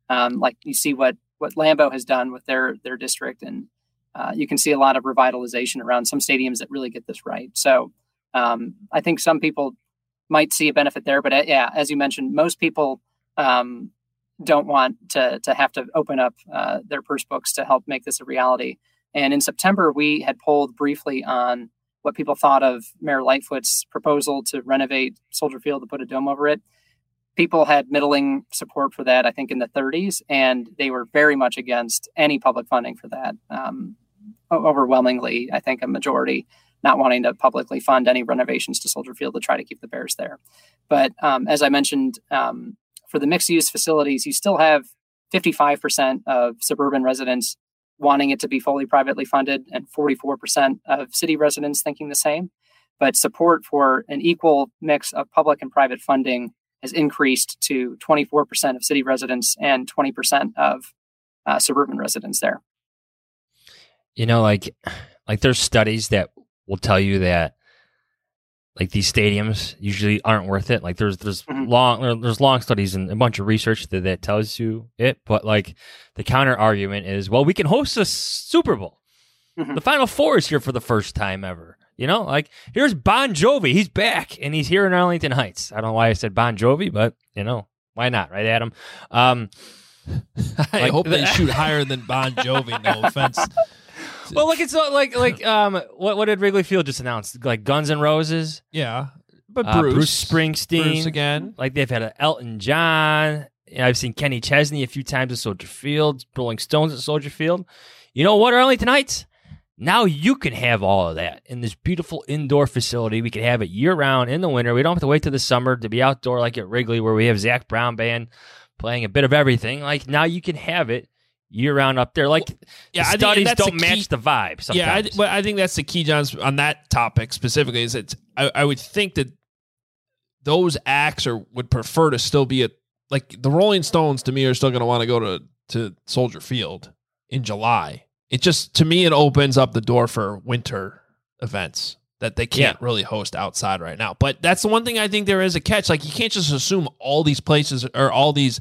Like you see what Lambeau has done with their district, and you can see a lot of revitalization around some stadiums that really get this right. So I think some people might see a benefit there, but yeah, as you mentioned, most people don't want to have to open up their purse books to help make this a reality. And in September, we had polled briefly on what people thought of Mayor Lightfoot's proposal to renovate Soldier Field to put a dome over it. People had middling support for that, I think, in the 30s, and they were very much against any public funding for that. Overwhelmingly, I think a majority not wanting to publicly fund any renovations to Soldier Field to try to keep the Bears there. But as I mentioned, for the mixed-use facilities, you still have 55% of suburban residents wanting it to be fully privately funded and 44% of city residents thinking the same. But support for an equal mix of public and private funding has increased to 24% of city residents and 20% of suburban residents there. You know, like there's studies that will tell you that like these stadiums usually aren't worth it. Like there's long studies and a bunch of research that tells you it. But like the counter argument is, well, we can host a Super Bowl. The Final Four is here for the first time ever. You know, like here's Bon Jovi. He's back and he's here in Arlington Heights. I don't know why I said Bon Jovi, but you know, why not? Right, Adam? I hope they shoot higher than Bon Jovi. No offense. Well, look, it's what did Wrigley Field just announce? Like Guns N' Roses, yeah, but Bruce Springsteen, Bruce again. Like they've had an Elton John. I've seen Kenny Chesney a few times at Soldier Field, Rolling Stones at Soldier Field. You know what, Arlington Heights? Now you can have all of that in this beautiful indoor facility. We can have it year-round in the winter. We don't have to wait till the summer to be outdoor like at Wrigley, where we have Zach Brown Band playing a bit of everything. Like now you can have it year-round up there. Like studies don't match the vibe sometimes. Yeah, I think that's the key, John, on that topic specifically. Is that I would think that those acts would prefer to still be like the Rolling Stones. To me, are still going to want to go to Soldier Field in July. It just, to me, it opens up the door for winter events that they can't really host outside right now. But that's the one thing I think there is a catch. Like you can't just assume all these places or all these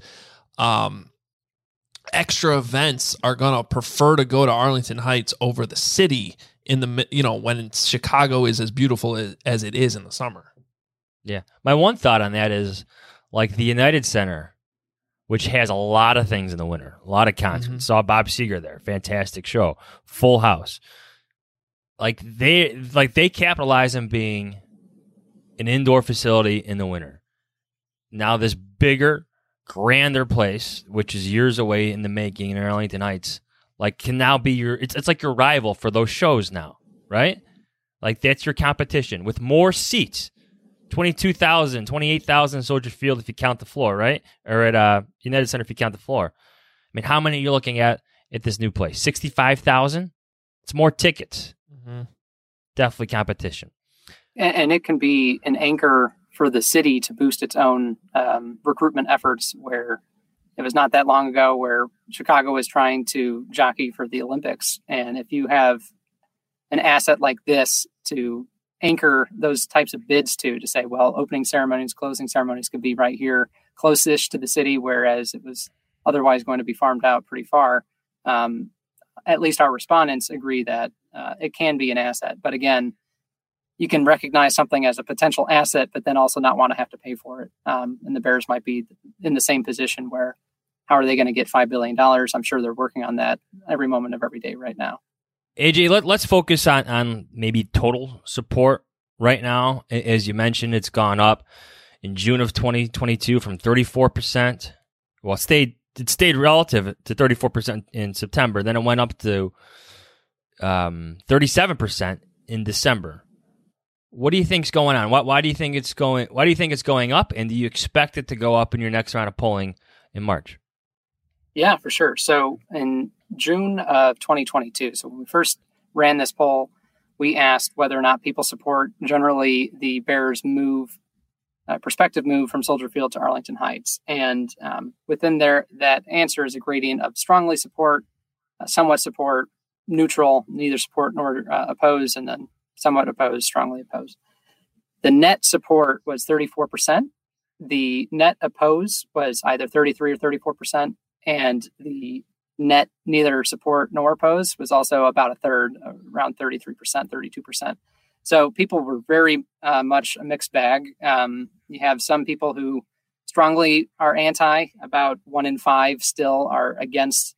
extra events are going to prefer to go to Arlington Heights over the city in the, when Chicago is as beautiful as it is in the summer. Yeah. My one thought on that is like the United Center, which has a lot of things in the winter, a lot of concerts. Saw Bob Seger there. Fantastic show. Full house. Like they capitalize on being an indoor facility in the winter. Now this bigger, grander place, which is years away in the making in Arlington Heights, like can now be it's like your rival for those shows now, right? Like that's your competition with more seats. 22,000, 28,000 Soldier Field if you count the floor, right? Or at United Center if you count the floor. I mean, how many are you looking at this new place? 65,000? It's more tickets. Definitely competition. And it can be an anchor for the city to boost its own recruitment efforts, where it was not that long ago where Chicago was trying to jockey for the Olympics. And if you have an asset like this to anchor those types of bids to say, well, opening ceremonies, closing ceremonies could be right here, close-ish to the city, whereas it was otherwise going to be farmed out pretty far. At least our respondents agree that it can be an asset. But again, you can recognize something as a potential asset, but then also not want to have to pay for it. And the Bears might be in the same position where how are they going to get $5 billion? I'm sure they're working on that every moment of every day right now. AJ, let's focus on maybe total support right now. As you mentioned, it's gone up in June of 2022 from 34%. Well, it stayed relative to 34% in September. Then it went up to 37% in December. What do you think's going on? Why do you think it's going? Why do you think it's going up? And do you expect it to go up in your next round of polling in March? Yeah, for sure. So in June of 2022, so when we first ran this poll, we asked whether or not people support generally the Bears' prospective move from Soldier Field to Arlington Heights. And within there, that answer is a gradient of strongly support, somewhat support, neutral, neither support nor oppose, and then somewhat opposed, strongly opposed. The net support was 34%. The net oppose was either 33 or 34%. and the net neither support nor oppose was also about a third, around 33%, 32%. So people were very much a mixed bag. You have some people who strongly are anti. About 1 in 5 still are against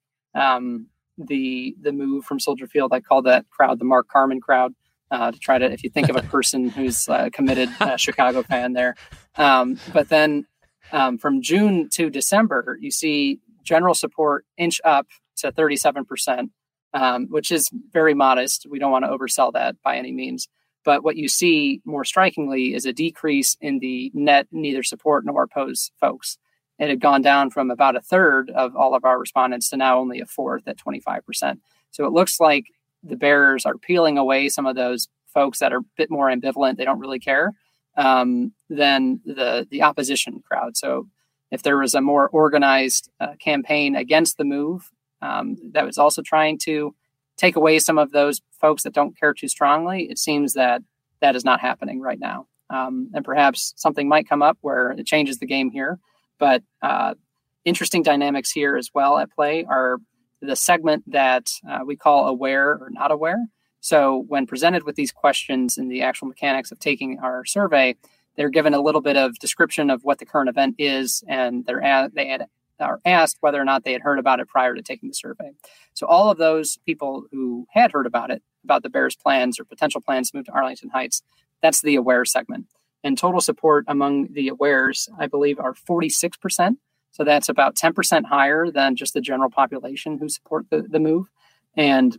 the move from Soldier Field. I call that crowd the Mark Carman crowd, to try to, if you think of a person who's a committed Chicago fan there. But then from June to December, you see general support inch up to 37%, which is very modest. We don't want to oversell that by any means. But what you see more strikingly is a decrease in the net neither support nor oppose folks. It had gone down from about a third of all of our respondents to now only a fourth at 25%. So it looks like the Bears are peeling away some of those folks that are a bit more ambivalent. They don't really care than the opposition crowd. So if there was a more organized campaign against the move that was also trying to take away some of those folks that don't care too strongly, it seems that that is not happening right now. And perhaps something might come up where it changes the game here. But interesting dynamics here as well at play are the segment that we call aware or not aware. So when presented with these questions in the actual mechanics of taking our survey, they're given a little bit of description of what the current event is, and they are asked whether or not they had heard about it prior to taking the survey. So all of those people who had heard about it, about the Bears' plans or potential plans to move to Arlington Heights, that's the aware segment. And total support among the awares, I believe, are 46%. So that's about 10% higher than just the general population who support the move. And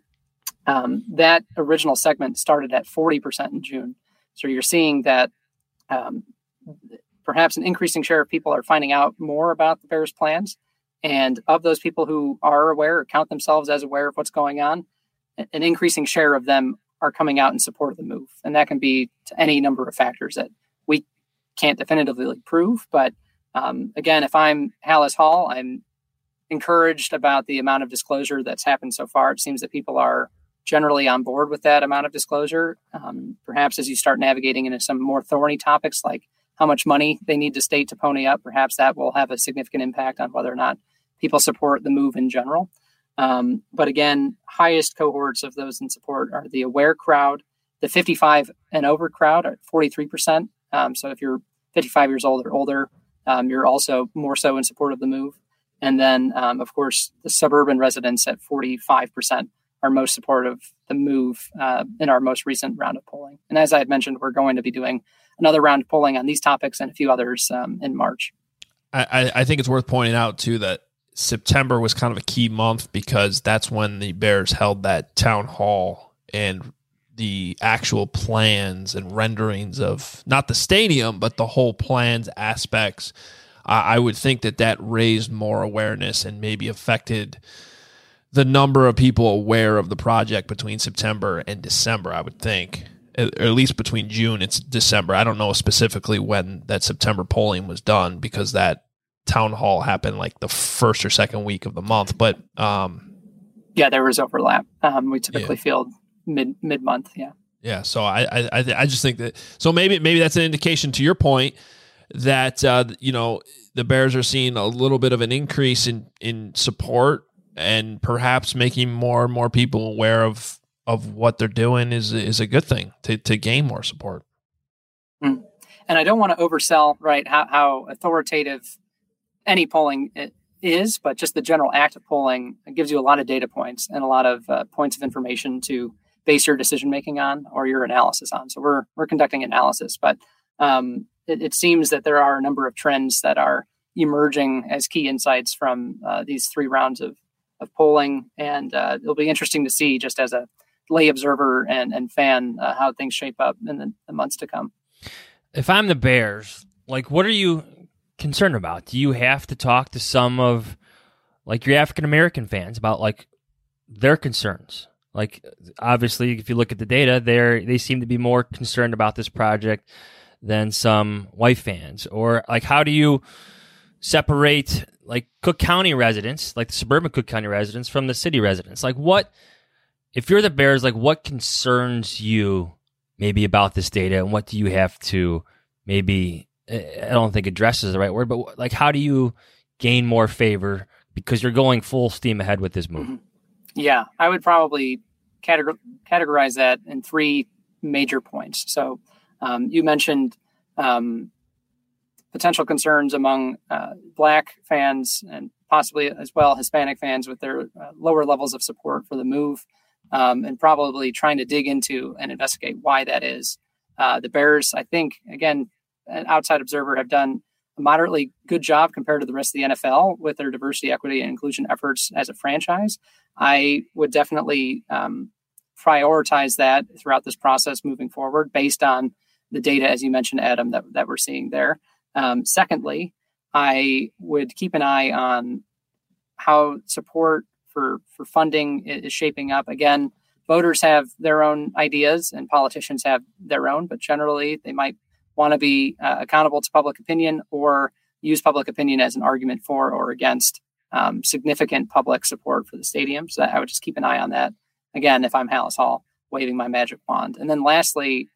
that original segment started at 40% in June. So you're seeing that perhaps an increasing share of people are finding out more about the Bears' plans. And of those people who are aware or count themselves as aware of what's going on, an increasing share of them are coming out in support of the move. And that can be to any number of factors that we can't definitively prove. But again, if I'm Halas Hall, I'm encouraged about the amount of disclosure that's happened so far. It seems that people are generally on board with that amount of disclosure. Perhaps as you start navigating into some more thorny topics like how much money they need to state to pony up, perhaps that will have a significant impact on whether or not people support the move in general. But again, highest cohorts of those in support are the aware crowd, the 55 and over crowd at 43%. So if you're 55 years old or older, you're also more so in support of the move. And then, of course, the suburban residents at 45% are most supportive of the move in our most recent round of polling. And as I had mentioned, we're going to be doing another round of polling on these topics and a few others in March. I think it's worth pointing out, too, that September was kind of a key month because that's when the Bears held that town hall, and the actual plans and renderings of not the stadium, but the whole plans aspects. I would think that raised more awareness and maybe affected the number of people aware of the project between September and December, I would think. Or at least between June and December. I don't know specifically when that September polling was done because that town hall happened like the first or second week of the month. But yeah, there was overlap. We typically field mid-month. Yeah. Yeah. So I just think that, so maybe that's an indication to your point that, the Bears are seeing a little bit of an increase in support, and perhaps making more and more people aware of what they're doing is a good thing to gain more support. And I don't want to oversell, right, how authoritative any polling is, but just the general act of polling gives you a lot of data points and a lot of points of information to base your decision-making on or your analysis on. So we're conducting analysis, but it seems that there are a number of trends that are emerging as key insights from these 3 rounds of polling. And it'll be interesting to see, just as a lay observer and fan, how things shape up in the months to come. If I'm the Bears, what are you concerned about? Do you have to talk to some of your African-American fans about their concerns? Obviously, if you look at the data, they seem to be more concerned about this project than some white fans. Or how do you separate Cook County residents, the suburban Cook County residents, from the city residents? What, if you're the Bears, what concerns you maybe about this data, and what do you have to maybe, I don't think address is the right word, but how do you gain more favor because you're going full steam ahead with this move? Yeah, I would probably categorize that in three major points. So you mentioned potential concerns among Black fans and possibly as well Hispanic fans with their lower levels of support for the move, and probably trying to dig into and investigate why that is. The Bears, I think, again, an outside observer, have done a moderately good job compared to the rest of the NFL with their diversity, equity, and inclusion efforts as a franchise. I would definitely prioritize that throughout this process moving forward based on the data, as you mentioned, Adam, that we're seeing there. Secondly, I would keep an eye on how support for funding is shaping up. Again, voters have their own ideas and politicians have their own, but generally they might want to be accountable to public opinion or use public opinion as an argument for or against significant public support for the stadium. So I would just keep an eye on that. Again, if I'm Halas Hall, waving my magic wand. And then lastly,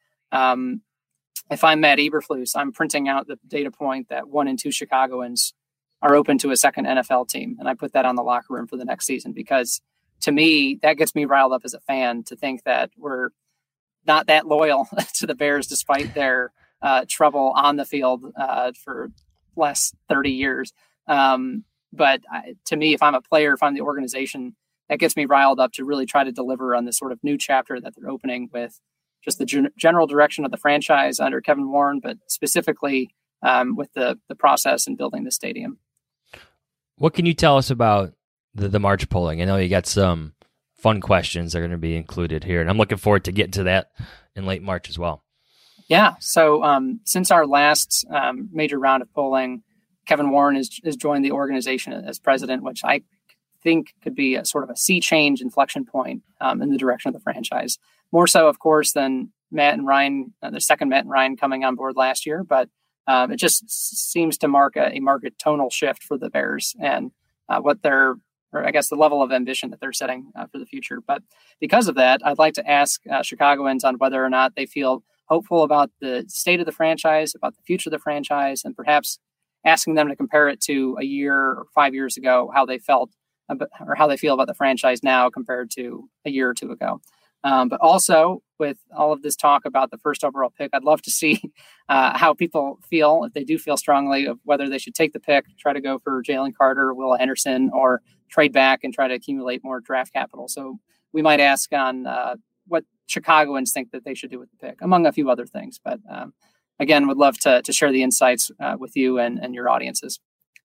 if I'm Matt Eberflus, I'm printing out the data point that 1 in 2 Chicagoans are open to a second NFL team. And I put that on the locker room for the next season, because to me, that gets me riled up as a fan to think that we're not that loyal to the Bears, despite their trouble on the field for the last 30 years. But to me, if I'm a player, if I'm the organization, that gets me riled up to really try to deliver on this sort of new chapter that they're opening with just the general direction of the franchise under Kevin Warren, but specifically with the process and building the stadium. What can you tell us about the March polling? I know you got some fun questions that are going to be included here, and I'm looking forward to getting to that in late March as well. Yeah. So since our last major round of polling, Kevin Warren has joined the organization as president, which I think could be a sort of a sea change inflection point in the direction of the franchise. More so, of course, than Matt and Ryan, the second Matt and Ryan coming on board last year. But it just seems to mark a market tonal shift for the Bears and the level of ambition that they're setting for the future. But because of that, I'd like to ask Chicagoans on whether or not they feel hopeful about the state of the franchise, about the future of the franchise, and perhaps asking them to compare it to a year or 5 years ago, how they felt or how they feel about the franchise now compared to a year or two ago. But also, with all of this talk about the first overall pick, I'd love to see how people feel, if they do feel strongly, of whether they should take the pick, try to go for Jalen Carter, Will Anderson, or trade back and try to accumulate more draft capital. So we might ask on what Chicagoans think that they should do with the pick, among a few other things. But again, would love to share the insights with you and your audiences.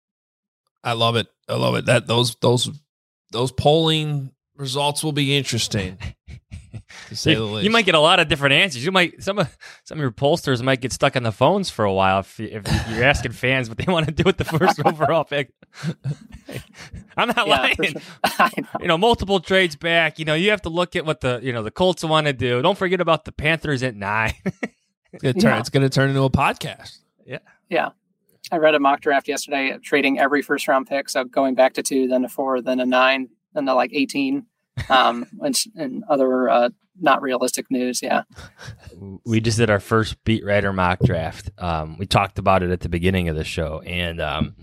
I love it. That those polling results will be interesting, to say the least. You might get a lot of different answers. You might some of your pollsters might get stuck on the phones for a while if you're asking fans what they want to do with the first overall pick. I'm not lying. Sure. Multiple trades back. You have to look at what the Colts want to do. Don't forget about the Panthers at 9. It's going to turn into a podcast. Yeah. I read a mock draft yesterday trading every first round pick. So going back to 2, then to 4, then a 9, then to 18, and other not realistic news. Yeah. We just did our first beat writer mock draft. We talked about it at the beginning of the show, and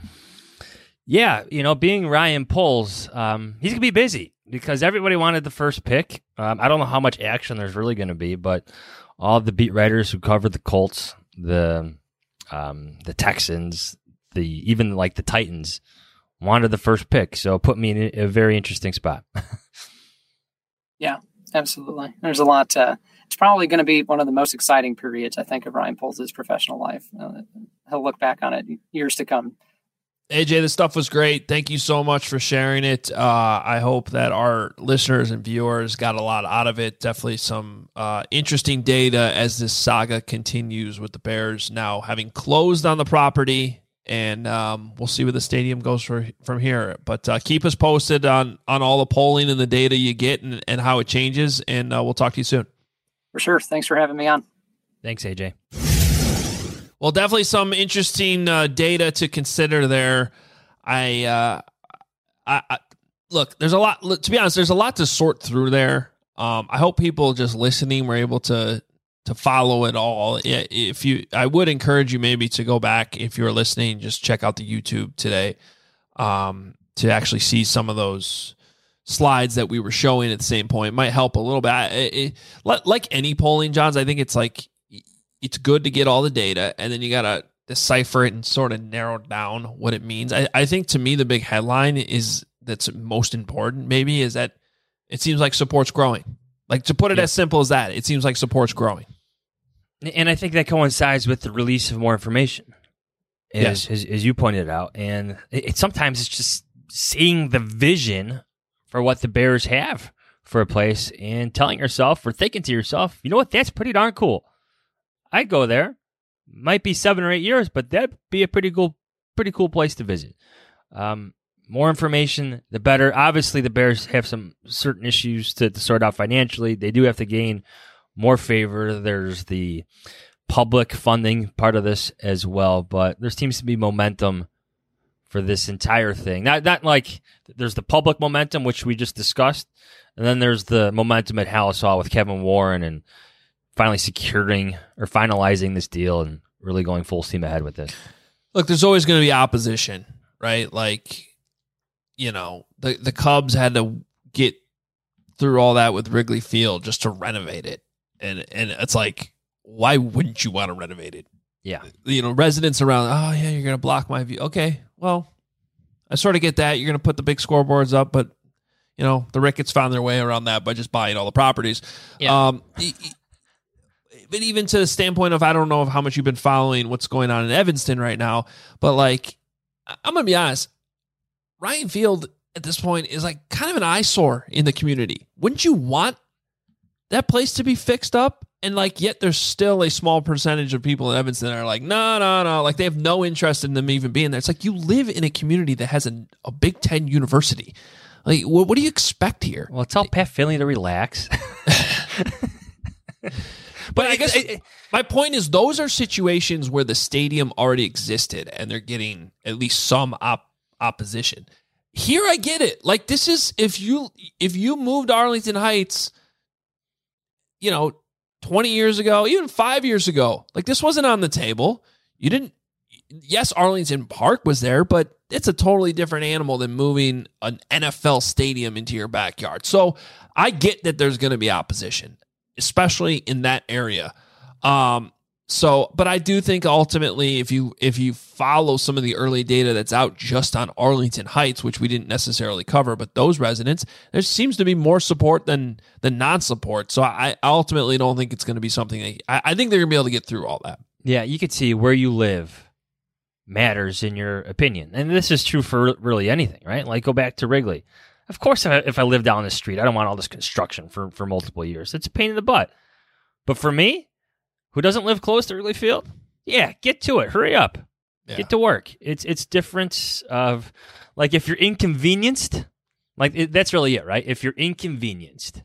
being Ryan Poles, he's going to be busy because everybody wanted the first pick. I don't know how much action there's really going to be, but all of the beat writers who covered the Colts, the Texans, even the Titans wanted the first pick. So it put me in a very interesting spot. Yeah, absolutely. There's a lot. It's probably going to be one of the most exciting periods, I think, of Ryan Poles' professional life. He'll look back on it years to come. AJ, this stuff was great. Thank you so much for sharing it. I hope that our listeners and viewers got a lot out of it. Definitely some interesting data as this saga continues with the Bears now having closed on the property, and we'll see where the stadium goes from here. But keep us posted on all the polling and the data you get and how it changes, and we'll talk to you soon. For sure. Thanks for having me on. Thanks, AJ. Well, definitely some interesting data to consider there. I look, there's a lot, to be honest, there's a lot to sort through there. I hope people just listening were able to follow it all. I would encourage you maybe to go back if you're listening, just check out the YouTube today. to actually see some of those slides that we were showing at the same point. It might help a little bit. Like any polling, Johns, I think it's like it's good to get all the data, and then you got to decipher it and sort of narrow down what it means. I think to me the big headline is that's most important maybe is that it seems like support's growing. Like, to put it as simple as that, it seems like support's growing. And I think that coincides with the release of more information, as you pointed out. And sometimes it's just seeing the vision for what the Bears have for a place and telling yourself or thinking to yourself, you know what, that's pretty darn cool. I'd go there. Might be 7 or 8 years, but that'd be a pretty cool place to visit. More information, the better. Obviously, the Bears have some certain issues to sort out financially. They do have to gain more favor. There's the public funding part of this as well, but there seems to be momentum for this entire thing. Not like there's the public momentum, which we just discussed, and then there's the momentum at Halas Hall with Kevin Warren and finally securing or finalizing this deal and really going full steam ahead with this. Look, there's always going to be opposition, right? Like, you know, the Cubs had to get through all that with Wrigley Field just to renovate it. And it's like, why wouldn't you want to renovate it? Yeah. You know, residents around, oh, yeah, you're going to block my view. Okay, well, I sort of get that. You're going to put the big scoreboards up, but, you know, the Ricketts found their way around that by just buying all the properties. Yeah. But even to the standpoint of, I don't know how much you've been following what's going on in Evanston right now, but, like, I'm going to be honest, Ryan Field at this point is like kind of an eyesore in the community. Wouldn't you want that place to be fixed up? And like, yet there's still a small percentage of people in Evanston that are like, no. Like, they have no interest in them even being there. It's like, you live in a community that has a Big Ten university. Like, what do you expect here? Well, tell Pat Finley to relax. But I guess my point is, those are situations where the stadium already existed and they're getting at least some opposition. Here, I get it. Like, this is, if you moved to Arlington Heights, you know, 20 years ago, even 5 years ago, like, this wasn't on the table. Yes, Arlington Park was there, but it's a totally different animal than moving an NFL stadium into your backyard. So I get that there's going to be opposition, especially in that area. But I do think ultimately, if you follow some of the early data that's out just on Arlington Heights, which we didn't necessarily cover, but those residents, there seems to be more support than non-support. So I ultimately don't think it's going to be something I think they're going to be able to get through all that. Yeah, you could see where you live matters in your opinion. And this is true for really anything, right? Like, go back to Wrigley. Of course, if I live down the street, I don't want all this construction for multiple years. It's a pain in the butt. But for me, who doesn't live close to Wrigley Field, yeah, get to it. Hurry up. Yeah. Get to work. It's different of, like, if you're inconvenienced, like, that's really it, right? If you're inconvenienced,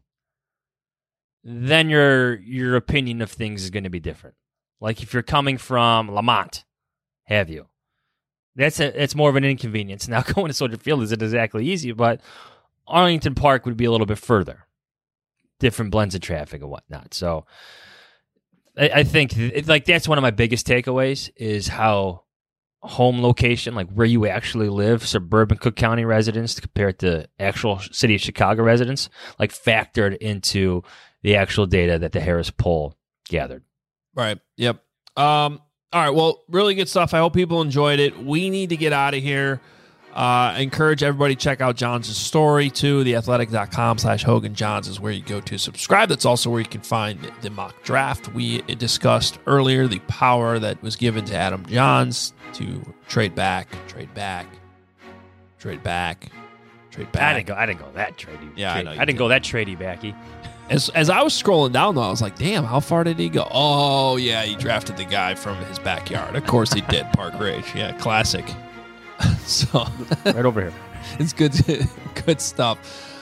then your opinion of things is going to be different. Like, if you're coming from Lamont, have you? It's more of an inconvenience. Now, going to Soldier Field isn't exactly easy, but Arlington Park would be a little bit further. Different blends of traffic and whatnot. So I think like that's one of my biggest takeaways is how home location, like where you actually live, suburban Cook County residents compared to actual city of Chicago residents, like factored into the actual data that the Harris poll gathered. Right. Yep. All right. Well, really good stuff. I hope people enjoyed it. We need to get out of here. I encourage everybody to check out Johns' story too. Theathletic.com/Hogan Johns is where you go to subscribe. That's also where you can find the mock draft we discussed earlier, the power that was given to Adam Johns to trade back. I didn't go that trady. Yeah, I know. I didn't go that trady backy. As I was scrolling down, though, I was like, damn, how far did he go? Oh, yeah, he drafted the guy from his backyard. Of course he did, Park Ridge. Yeah, classic. So right over here. It's good stuff.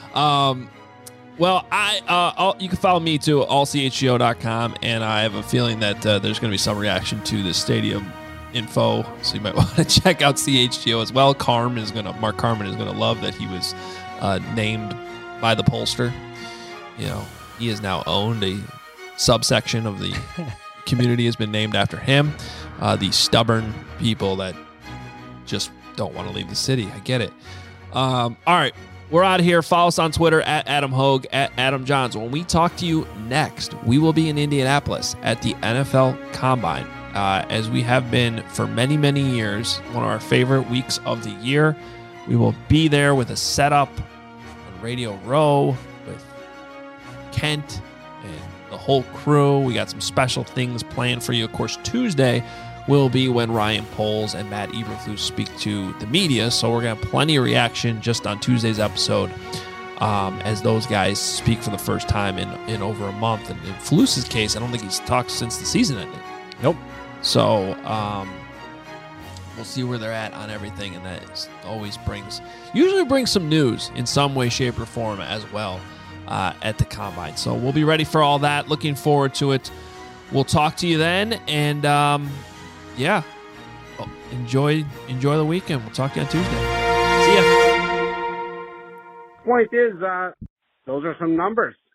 Well, you can follow me too, allchgo.com, and I have a feeling that there's going to be some reaction to the stadium info, so you might want to check out CHGO as well. Mark Carman is going to love that he was named by the pollster. You know, he is now owned. A subsection of the community has been named after him. The stubborn people that just don't want to leave the city. I get it. All right. We're out of here. Follow us on Twitter at Adam Hogue, at Adam Johns. When we talk to you next, we will be in Indianapolis at the NFL Combine, as we have been for many, many years. One of our favorite weeks of the year. We will be there with a setup on Radio Row with Kent and the whole crew. We got some special things planned for you. Of course, Tuesday will be when Ryan Poles and Matt Eberflus speak to the media. So we're going to have plenty of reaction just on Tuesday's episode as those guys speak for the first time in over a month. And in Flus's case, I don't think he's talked since the season ended. Nope. So we'll see where they're at on everything. And that usually brings some news in some way, shape, or form as well at the Combine. So we'll be ready for all that. Looking forward to it. We'll talk to you then. And yeah, enjoy the weekend. We'll talk to you on Tuesday. See ya. Point is, those are some numbers.